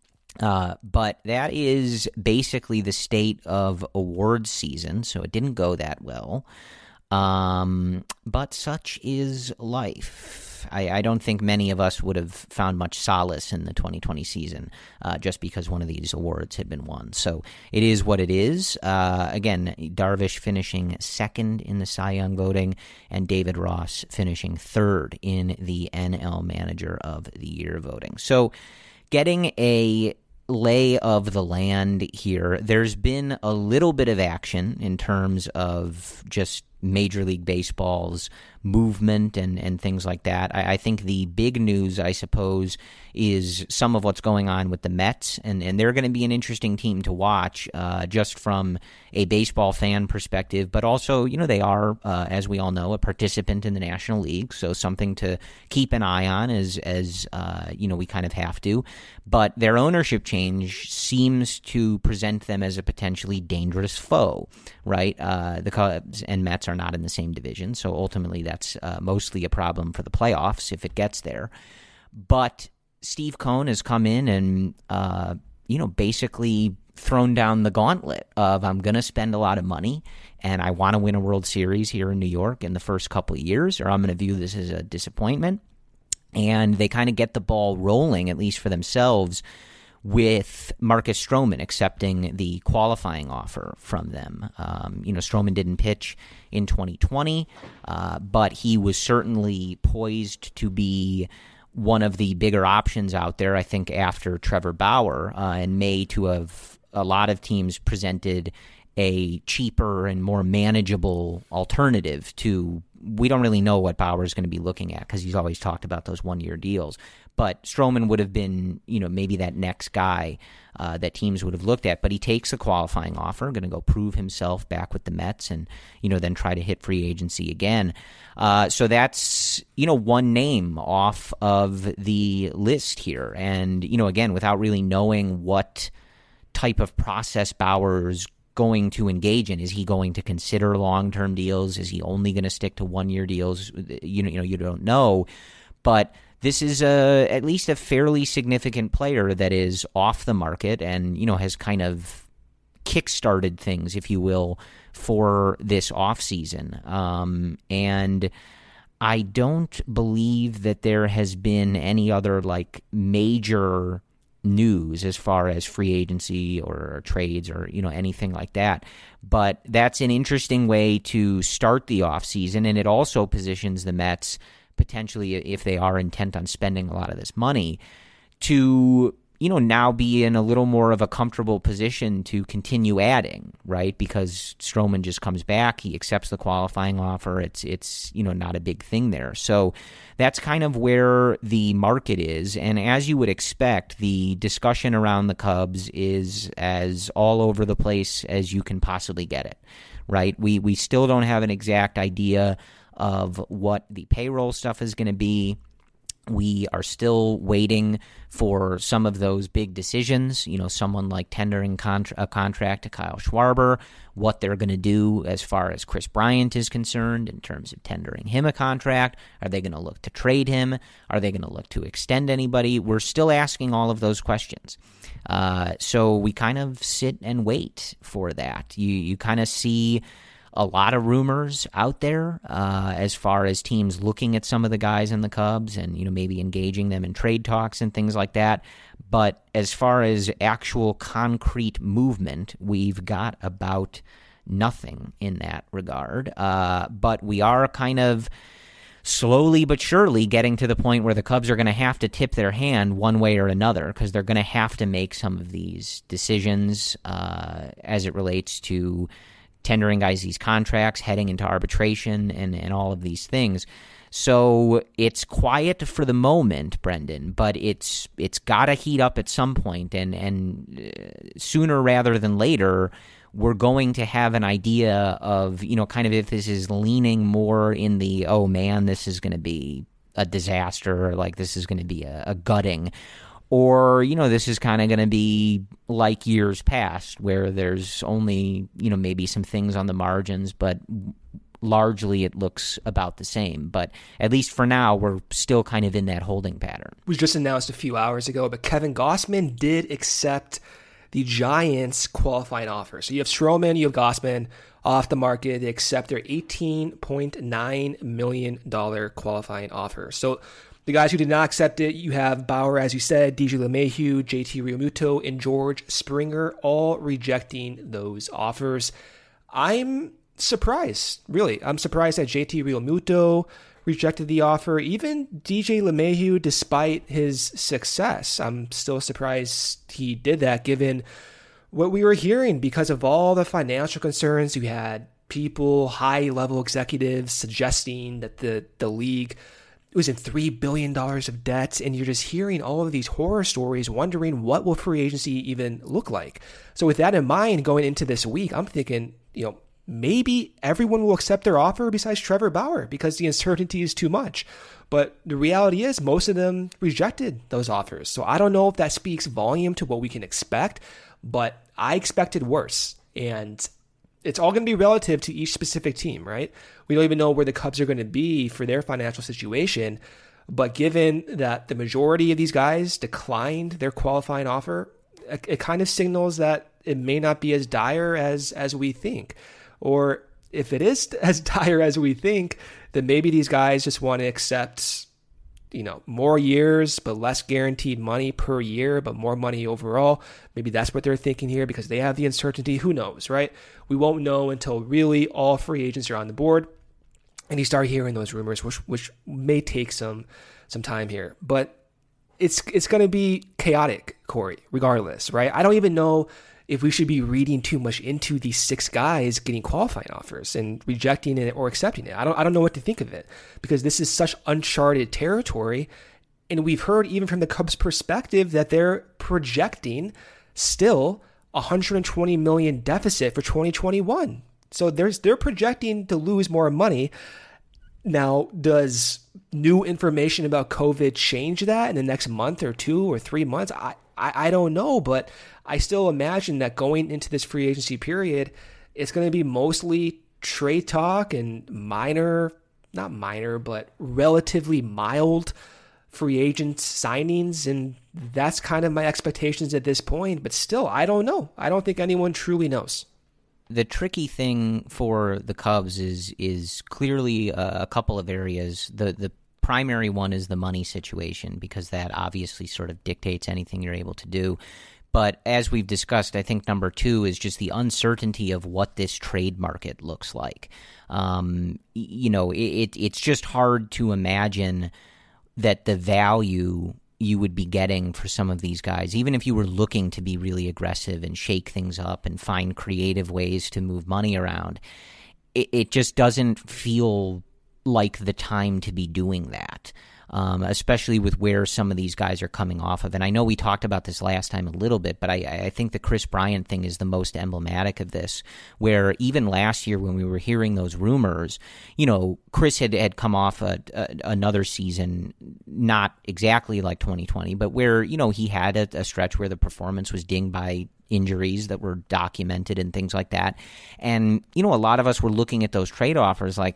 But that is basically the state of awards season, so it didn't go that well. But such is life. I don't think many of us would have found much solace in the 2020 season just because one of these awards had been won. So it is what it is. Again, Darvish finishing second in the Cy Young voting and David Ross finishing third in the NL Manager of the Year voting. So getting a lay of the land here, there's been a little bit of action in terms of just Major League Baseball's movement and things like that. I think the big news, I suppose, is some of what's going on with the Mets, and they're going to be an interesting team to watch just from a baseball fan perspective, but also, they are, as we all know, a participant in the National League, so something to keep an eye on as we kind of have to. But their ownership change seems to present them as a potentially dangerous foe, right? The Cubs and Mets are not in the same division, so ultimately that's mostly a problem for the playoffs if it gets there. But Steve Cohen has come in and, basically thrown down the gauntlet of, I'm going to spend a lot of money and I want to win a World Series here in New York in the first couple of years, or I'm going to view this as a disappointment. And they kind of get the ball rolling, at least for themselves, with Marcus Stroman accepting the qualifying offer from them. Stroman didn't pitch in 2020, but he was certainly poised to be one of the bigger options out there, I think, after Trevor Bauer, and may to have a lot of teams presented a cheaper and more manageable alternative to, we don't really know what Bauer is going to be looking at because he's always talked about those one-year deals. But Stroman would have been, maybe that next guy that teams would have looked at. But he takes a qualifying offer, going to go prove himself back with the Mets and, then try to hit free agency again. So that's, one name off of the list here. And, again, without really knowing what type of process Bauer's going to engage in. Is he going to consider long-term deals? Is he only going to stick to one-year deals? You don't know. But this is at least a fairly significant player that is off the market and, has kind of kick-started things, if you will, for this offseason. And I don't believe that there has been any other, major news as far as free agency or trades or anything like that, but that's an interesting way to start the offseason, and it also positions the Mets potentially, if they are intent on spending a lot of this money, to now be in a little more of a comfortable position to continue adding, right? Because Stroman just comes back, he accepts the qualifying offer. It's not a big thing there. So that's kind of where the market is. And as you would expect, the discussion around the Cubs is as all over the place as you can possibly get it, right? We still don't have an exact idea of what the payroll stuff is going to be. We are still waiting for some of those big decisions, someone like tendering a contract to Kyle Schwarber, what they're going to do as far as Chris Bryant is concerned in terms of tendering him a contract. Are they going to look to trade him? Are they going to look to extend anybody? We're still asking all of those questions. So we kind of sit and wait for that. You kind of see a lot of rumors out there as far as teams looking at some of the guys in the Cubs and, maybe engaging them in trade talks and things like that. But as far as actual concrete movement, we've got about nothing in that regard. But we are kind of slowly but surely getting to the point where the Cubs are going to have to tip their hand one way or another, because they're going to have to make some of these decisions as it relates to tendering guys these contracts, heading into arbitration, and all of these things. So it's quiet for the moment, Brendan, but it's got to heat up at some point, and sooner rather than later, we're going to have an idea of, kind of if this is leaning more in the, oh man, this is going to be a disaster, or like this is going to be a gutting, or, this is kind of going to be like years past where there's only, maybe some things on the margins, but largely it looks about the same. But at least for now, we're still kind of in that holding pattern. It was just announced a few hours ago, but Kevin Gausman did accept the Giants' qualifying offer. So you have Stroman, you have Gausman off the market. They accept their $18.9 million qualifying offer. So the guys who did not accept it, you have Bauer, as you said, DJ LeMahieu, JT Realmuto, and George Springer, all rejecting those offers. I'm surprised, really. I'm surprised that JT Realmuto rejected the offer. Even DJ LeMahieu, despite his success, I'm still surprised he did that, given what we were hearing because of all the financial concerns. You had people, high-level executives suggesting that the league was in $3 billion of debt, and you're just hearing all of these horror stories, wondering what will free agency even look like. So with that in mind, going into this week, I'm thinking, maybe everyone will accept their offer besides Trevor Bauer because the uncertainty is too much. But the reality is most of them rejected those offers. So I don't know if that speaks volume to what we can expect, but I expected worse. And it's all going to be relative to each specific team, right? We don't even know where the Cubs are going to be for their financial situation. But given that the majority of these guys declined their qualifying offer, it kind of signals that it may not be as dire as we think. Or if it is as dire as we think, then maybe these guys just want to accept, more years, but less guaranteed money per year, but more money overall. Maybe that's what they're thinking here because they have the uncertainty. Who knows, right? We won't know until really all free agents are on the board and you start hearing those rumors, which may take some time here. But it's going to be chaotic, Corey, regardless, right? I don't even know if we should be reading too much into these 6 guys getting qualifying offers and rejecting it or accepting it. I don't know what to think of it because this is such uncharted territory. And we've heard even from the Cubs' perspective that they're projecting still $120 million deficit for 2021. So they're projecting to lose more money. Now, does new information about COVID change that in the next month or 2 or 3 months? I don't know, but I still imagine that going into this free agency period, it's going to be mostly trade talk and not minor, but relatively mild free agent signings. And that's kind of my expectations at this point. But still, I don't know. I don't think anyone truly knows. The tricky thing for the Cubs is clearly a couple of areas. The primary one is the money situation because that obviously sort of dictates anything you're able to do. But as we've discussed, I think number 2 is just the uncertainty of what this trade market looks like. It's just hard to imagine that the value you would be getting for some of these guys, even if you were looking to be really aggressive and shake things up and find creative ways to move money around, it just doesn't feel like the time to be doing that, especially with where some of these guys are coming off of. And I know we talked about this last time a little bit, but I think the Kris Bryant thing is the most emblematic of this, where even last year when we were hearing those rumors, Kris had come off another season, not exactly like 2020, but where, he had a stretch where the performance was dinged by injuries that were documented and things like that. And, a lot of us were looking at those trade offers like,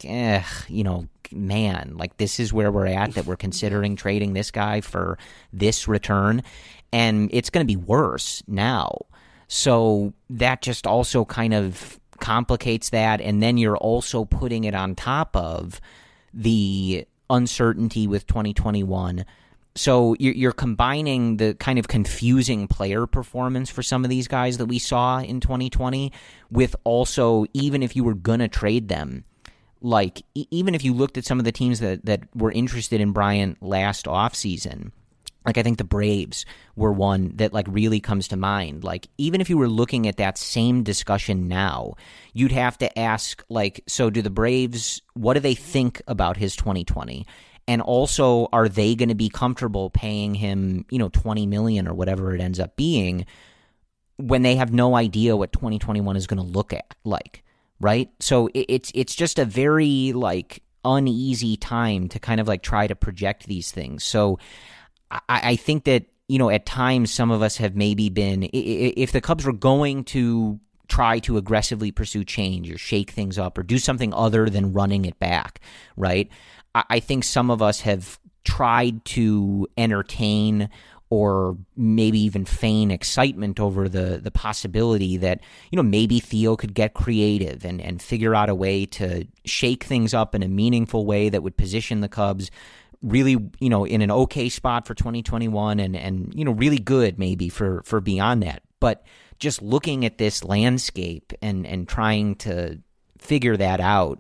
man, like this is where we're at, that we're considering trading this guy for this return. And it's going to be worse now. So that just also kind of complicates that. And then you're also putting it on top of the uncertainty with 2021. So you're combining the kind of confusing player performance for some of these guys that we saw in 2020 with also, even if you were going to trade them, like even if you looked at some of the teams that were interested in Bryant last offseason, like I think the Braves were one that like really comes to mind. Like even if you were looking at that same discussion now, you'd have to ask like, so do the Braves, what do they think about his 2020? And also, are they going to be comfortable paying him, $20 million or whatever it ends up being when they have no idea what 2021 is going to look like, right? So it's just a very like uneasy time to kind of like try to project these things. So I think that, at times some of us have maybe been, if the Cubs were going to try to aggressively pursue change or shake things up or do something other than running it back, right? I think some of us have tried to entertain or maybe even feign excitement over the possibility that, maybe Theo could get creative and figure out a way to shake things up in a meaningful way that would position the Cubs really, in an okay spot for 2021 and really good maybe for beyond that. But just looking at this landscape and trying to figure that out,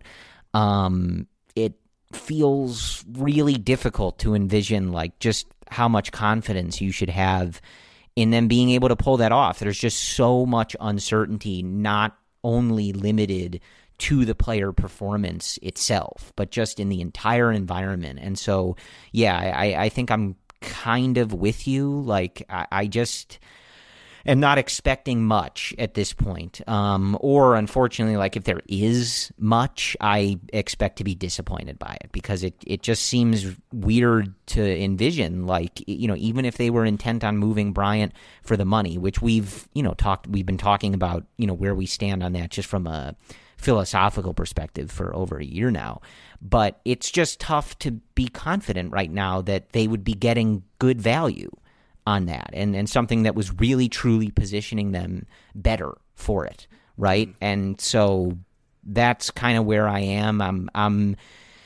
it feels really difficult to envision like just how much confidence you should have in them being able to pull that off. There's just so much uncertainty, not only limited to the player performance itself, but just in the entire environment. And so, yeah, I think I'm kind of with you. Like, I just am not expecting much at this point. Or unfortunately, like if there is much, I expect to be disappointed by it, because it just seems weird to envision, like, you know, even if they were intent on moving Bryant for the money, which we've been talking about, you know, where we stand on that just from a philosophical perspective for over a year now. But it's just tough to be confident right now that they would be getting good value on that, and something that was really truly positioning them better for it, right? And so that's kind of where I am. I'm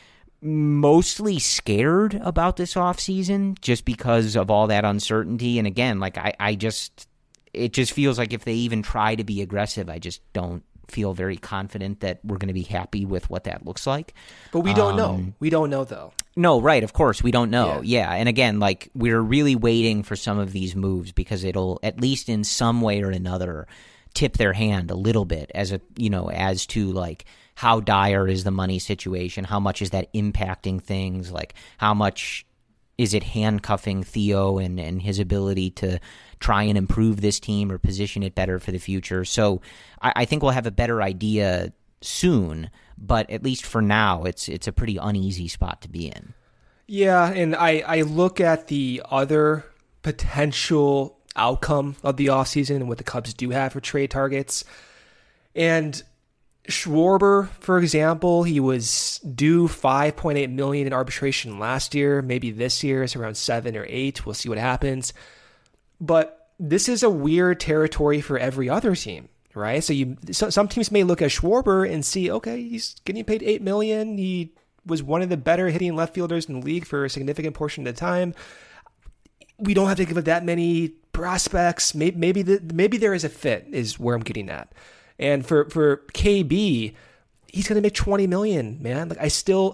mostly scared about this offseason just because of all that uncertainty. And again, like it just feels like if they even try to be aggressive, I just don't feel very confident that we're going to be happy with what that looks like. But we don't know. We don't know, though. No, right. Of course, we don't know. Yeah. And again, like, we're really waiting for some of these moves because it'll, at least in some way or another, tip their hand a little bit as to like how dire is the money situation, how much is that impacting things, like how much is it handcuffing Theo and his ability to try and improve this team or position it better for the future. So I think we'll have a better idea soon, but at least for now, it's a pretty uneasy spot to be in. Yeah, and I look at the other potential outcome of the offseason and what the Cubs do have for trade targets. And Schwarber, for example, he was due $5.8 million in arbitration last year. Maybe this year it's around 7 or 8. We'll see what happens. But this is a weird territory for every other team, right? So some teams may look at Schwarber and see, okay, he's getting paid $8 million. He was one of the better hitting left fielders in the league for a significant portion of the time. We don't have to give up that many prospects. Maybe there is a fit, is where I'm getting at. And for KB, he's going to make $20 million, man. Like,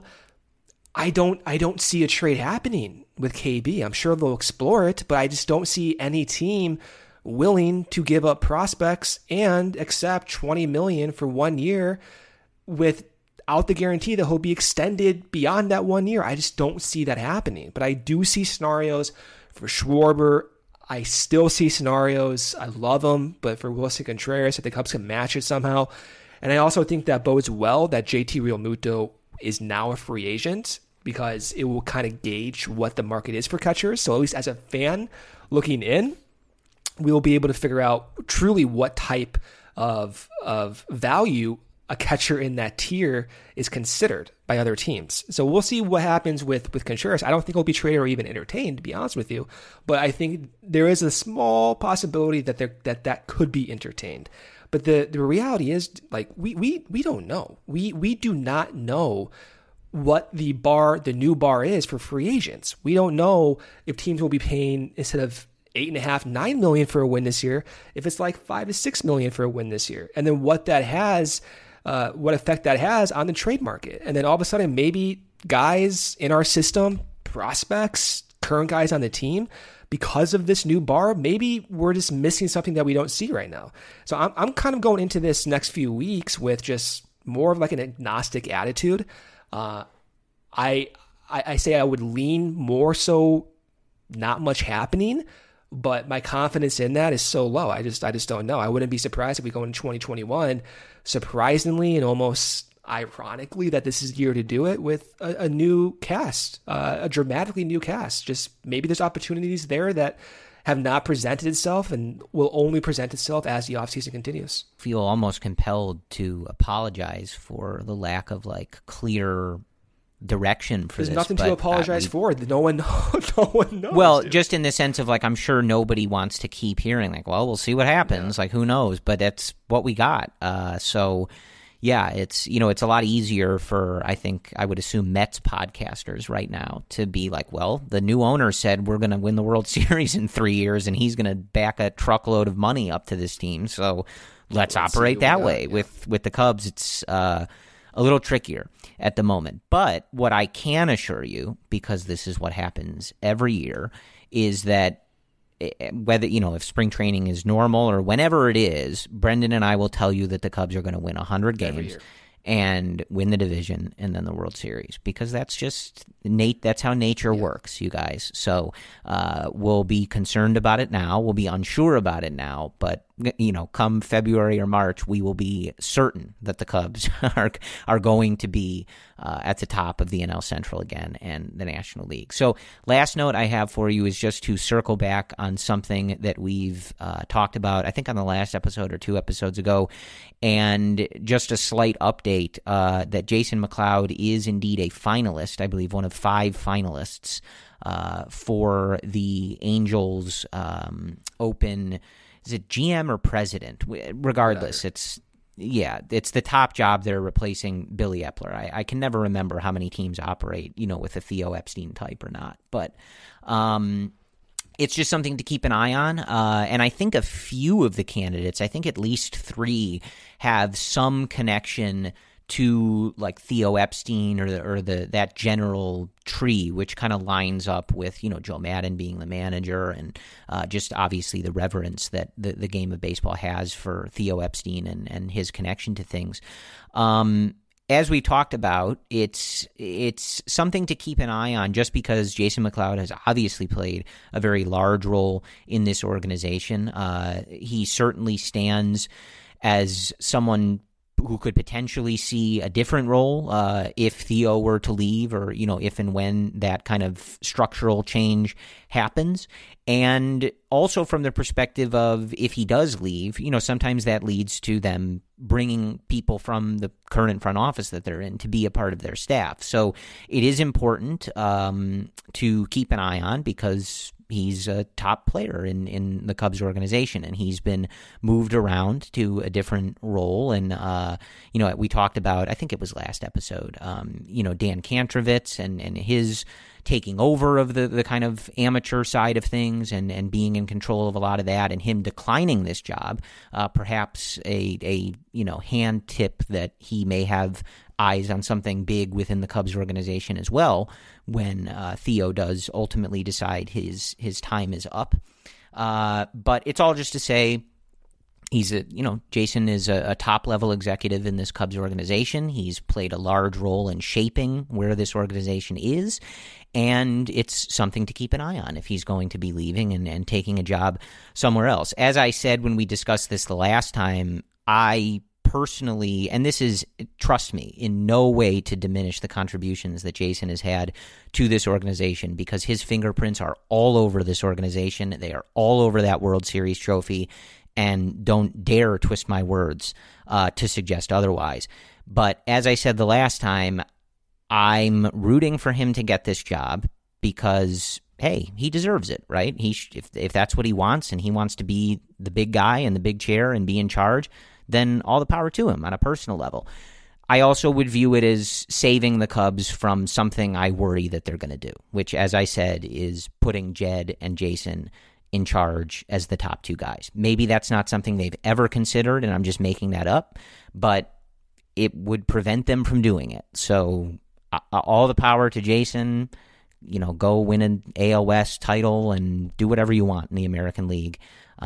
I don't see a trade happening with KB. I'm sure they'll explore it, but I just don't see any team willing to give up prospects and accept $20 million for 1 year without the guarantee that he'll be extended beyond that 1 year. I just don't see that happening. But I do see scenarios for Schwarber. I still see scenarios. I love them, but for Wilson Contreras, if the Cubs can match it somehow. And I also think that bodes well that JT Realmuto is now a free agent, because it will kind of gauge what the market is for catchers. So at least as a fan looking in, we will be able to figure out truly what type of value a catcher in that tier is considered by other teams. So we'll see what happens with Contreras. I don't think he'll be traded or even entertained, to be honest with you. But I think there is a small possibility that could be entertained. But the reality is, like, we don't know. We do not know what the new bar is for free agents. We don't know if teams will be paying, instead of $8.5-9 million for a win this year, if it's like $5 to $6 million for a win this year, and then what effect that has on the trade market. And then all of a sudden, maybe guys in our system, prospects, current guys on the team, because of this new bar, maybe we're just missing something that we don't see right now. So I'm kind of going into this next few weeks with just more of like an agnostic attitude. I say I would lean more so not much happening, but my confidence in that is so low. I just don't know. I wouldn't be surprised if we go into 2021, surprisingly and almost ironically, that this is the year to do it with a new cast, a dramatically new cast. Just maybe there's opportunities there that have not presented itself and will only present itself as the offseason continues. Feel almost compelled to apologize for the lack of like clear direction for There's this. Nothing to apologize for. No one knows. Well, just in the sense of like, I'm sure nobody wants to keep hearing like, well, we'll see what happens. Yeah. Like, who knows? But that's what we got. So yeah, it's a lot easier for, I think, I would assume, Mets podcasters right now to be like, well, the new owner said we're going to win the World Series in 3 years and he's going to back a truckload of money up to this team. So let's operate that way. Yeah. With the Cubs, it's a little trickier at the moment. But what I can assure you, because this is what happens every year, is that whether, if spring training is normal or whenever it is, Brendan and I will tell you that the Cubs are going to win 100 games. and win the division and then the World Series, because that's just that's how nature works, you guys. So we'll be concerned about it now. We'll be unsure about it now, but come February or March, we will be certain that the Cubs are going to be at the top of the NL Central again and the National League. So last note I have for you is just to circle back on something that we've talked about, I think on the last episode or 2 episodes ago, and just a slight update that Jason McLeod is indeed a finalist, I believe one of 5 finalists for the Angels Open. Is it GM or president? Regardless, it's the top job. They're replacing Billy Epler. I can never remember how many teams operate, with a Theo Epstein type or not. But it's just something to keep an eye on. And I think a few of the candidates, I think at least 3, have some connection to like Theo Epstein or that general tree, which kind of lines up with Joe Maddon being the manager, and just obviously the reverence that the game of baseball has for Theo Epstein and his connection to things. As we talked about, it's something to keep an eye on, just because Jason McLeod has obviously played a very large role in this organization. He certainly stands as someone who could potentially see a different role if Theo were to leave, or if and when that kind of structural change happens. And also from the perspective of, if he does leave, sometimes that leads to them bringing people from the current front office that they're in to be a part of their staff. So it is important to keep an eye on, because he's a top player in the Cubs organization, and he's been moved around to a different role. And, we talked about, I think it was last episode, Dan Kantrovitz and his taking over of the kind of amateur side of things and being in control of a lot of that, and him declining this job, perhaps a hand tip that he may have eyes on something big within the Cubs organization as well, when Theo does ultimately decide his time is up. But it's all just to say, Jason is a top-level executive in this Cubs organization. He's played a large role in shaping where this organization is, and it's something to keep an eye on if he's going to be leaving and taking a job somewhere else. As I said when we discussed this the last time, I personally, and this is, trust me, in no way to diminish the contributions that Jason has had to this organization, because his fingerprints are all over this organization. They are all over that World Series trophy, and don't dare twist my words to suggest otherwise. But as I said the last time, I'm rooting for him to get this job because, hey, he deserves it, right? If that's what he wants, and he wants to be the big guy in the big chair and be in charge, then all the power to him on a personal level. I also would view it as saving the Cubs from something I worry that they're going to do, which, as I said, is putting Jed and Jason in charge as the top 2 guys. Maybe that's not something they've ever considered, and I'm just making that up, but it would prevent them from doing it. So all the power to Jason. Go win an AL West title and do whatever you want in the American League.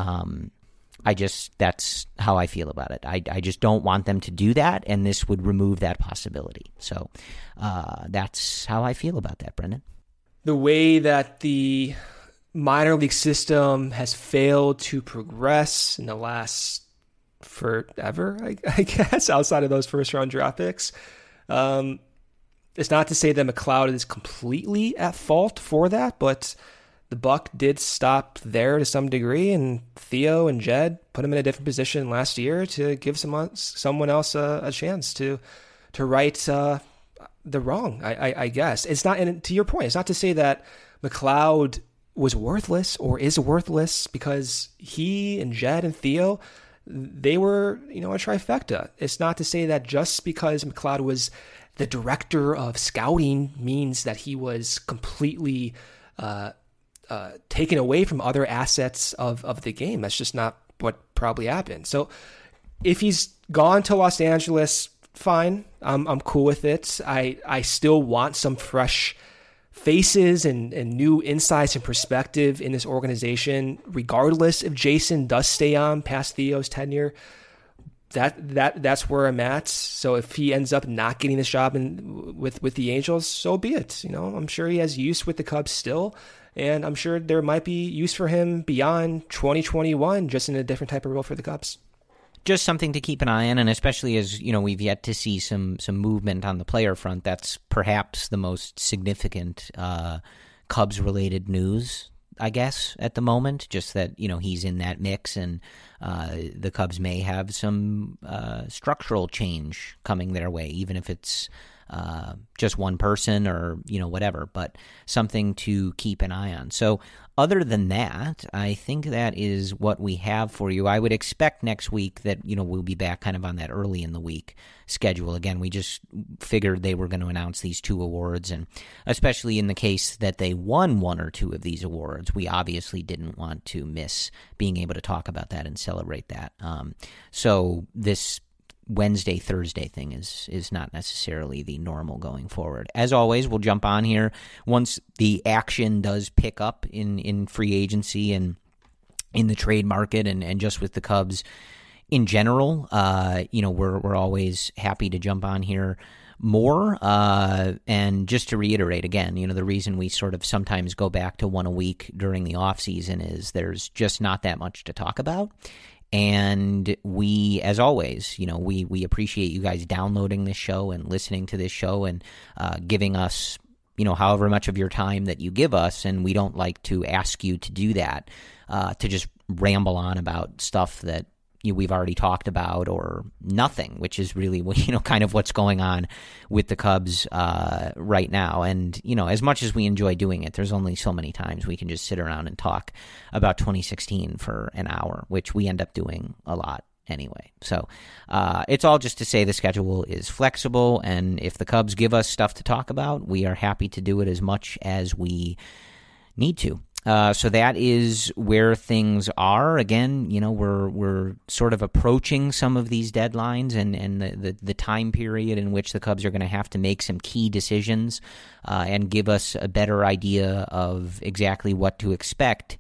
That's how I feel about it. I just don't want them to do that, and this would remove that possibility. So that's how I feel about that, Brendan. The way that the minor league system has failed to progress in the last forever, I guess, outside of those first-round draft picks. It's not to say that McLeod is completely at fault for that, but the buck did stop there to some degree, and Theo and Jed put him in a different position last year to give someone else a chance to right the wrong, I guess. It's not, and to your point, it's not to say that McLeod was worthless or is worthless, because he and Jed and Theo, they were, a trifecta. It's not to say that just because McLeod was the director of scouting means that he was completely taken away from other assets of the game. That's just not what probably happened. So if he's gone to Los Angeles, fine. I'm cool with it. I still want some fresh faces and new insights and perspective in this organization, regardless if Jason does stay on past Theo's tenure. that's where I'm at. So if he ends up not getting this job with the Angels, so be it. I'm sure he has use with the Cubs still, and I'm sure there might be use for him beyond 2021, just in a different type of role for the Cubs. Just something to keep an eye on, and especially as we've yet to see some movement on the player front. That's perhaps the most significant Cubs-related news, I guess, at the moment. Just that he's in that mix, and the Cubs may have some structural change coming their way, even if it's just one person or whatever, but something to keep an eye on. So other than that, I think that is what we have for you. I would expect next week that we'll be back kind of on that early in the week schedule. Again, we just figured they were going to announce these 2 awards, and especially in the case that they won 1 or 2 of these awards, we obviously didn't want to miss being able to talk about that and celebrate that. So this Wednesday, Thursday thing is not necessarily the normal going forward. As always, we'll jump on here once the action does pick up in free agency and in the trade market and just with the Cubs in general. We're always happy to jump on here more. And just to reiterate again, the reason we sort of sometimes go back to 1 a week during the off season is there's just not that much to talk about. And we, as always, we appreciate you guys downloading this show and listening to this show and giving us, however much of your time that you give us. And we don't like to ask you to do that, to just ramble on about stuff that we've already talked about or nothing, which is really kind of what's going on with the Cubs right now. And as much as we enjoy doing it, there's only so many times we can just sit around and talk about 2016 for an hour, which we end up doing a lot anyway. So it's all just to say the schedule is flexible, and if the Cubs give us stuff to talk about, we are happy to do it as much as we need to. So that is where things are. Again, we're sort of approaching some of these deadlines and the time period in which the Cubs are going to have to make some key decisions and give us a better idea of exactly what to expect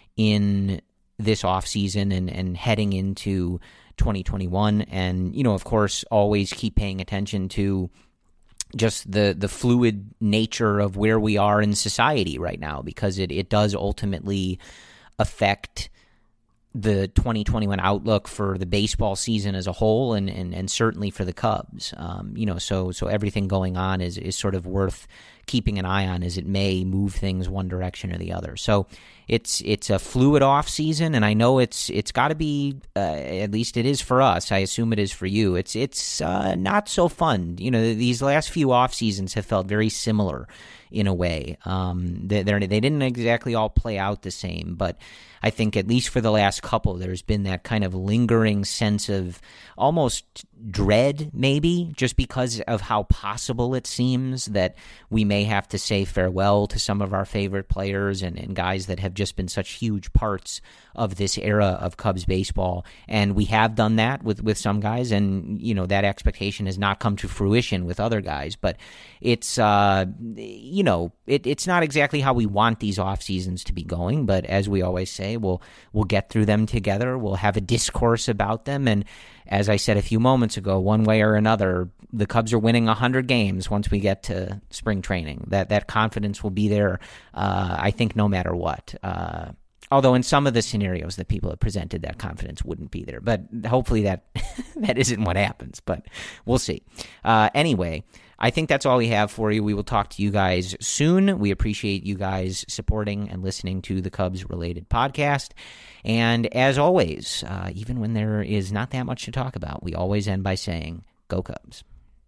in this offseason and heading into 2021. And, of course, always keep paying attention to just the fluid nature of where we are in society right now, because it does ultimately affect the 2021 outlook for the baseball season as a whole, and certainly for the Cubs. So everything going on is sort of worth keeping an eye on, as it may move things one direction or the other. So it's a fluid off season, and I know it's got to be, at least it is for us. I assume it is for you. It's not so fun. These last few off seasons have felt very similar in a way. They didn't exactly all play out the same, but I think at least for the last couple, there's been that kind of lingering sense of almost dread, maybe, just because of how possible it seems that we may have to say farewell to some of our favorite players and guys that have just been such huge parts of this era of Cubs baseball. And we have done that with some guys, and that expectation has not come to fruition with other guys. But it's it's not exactly how we want these off seasons to be going. But as we always say, we'll get through them together. We'll have a discourse about them, and as I said a few moments ago, one way or another, the Cubs are winning 100 games once we get to spring training. That confidence will be there, I think, no matter what. Although in some of the scenarios that people have presented, that confidence wouldn't be there. But hopefully that isn't what happens, but we'll see. Anyway, I think that's all we have for you. We will talk to you guys soon. We appreciate you guys supporting and listening to the Cubs-related podcast. And as always, even when there is not that much to talk about, we always end by saying, go Cubs.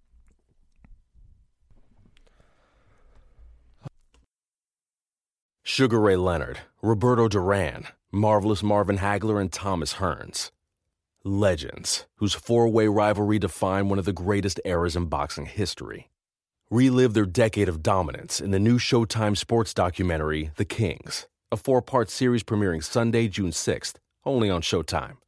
Sugar Ray Leonard, Roberto Duran, Marvelous Marvin Hagler, and Thomas Hearns. Legends, whose four-way rivalry defined one of the greatest eras in boxing history. Relive their decade of dominance in the new Showtime sports documentary, The Kings, a 4-part series premiering Sunday, June 6th, only on Showtime.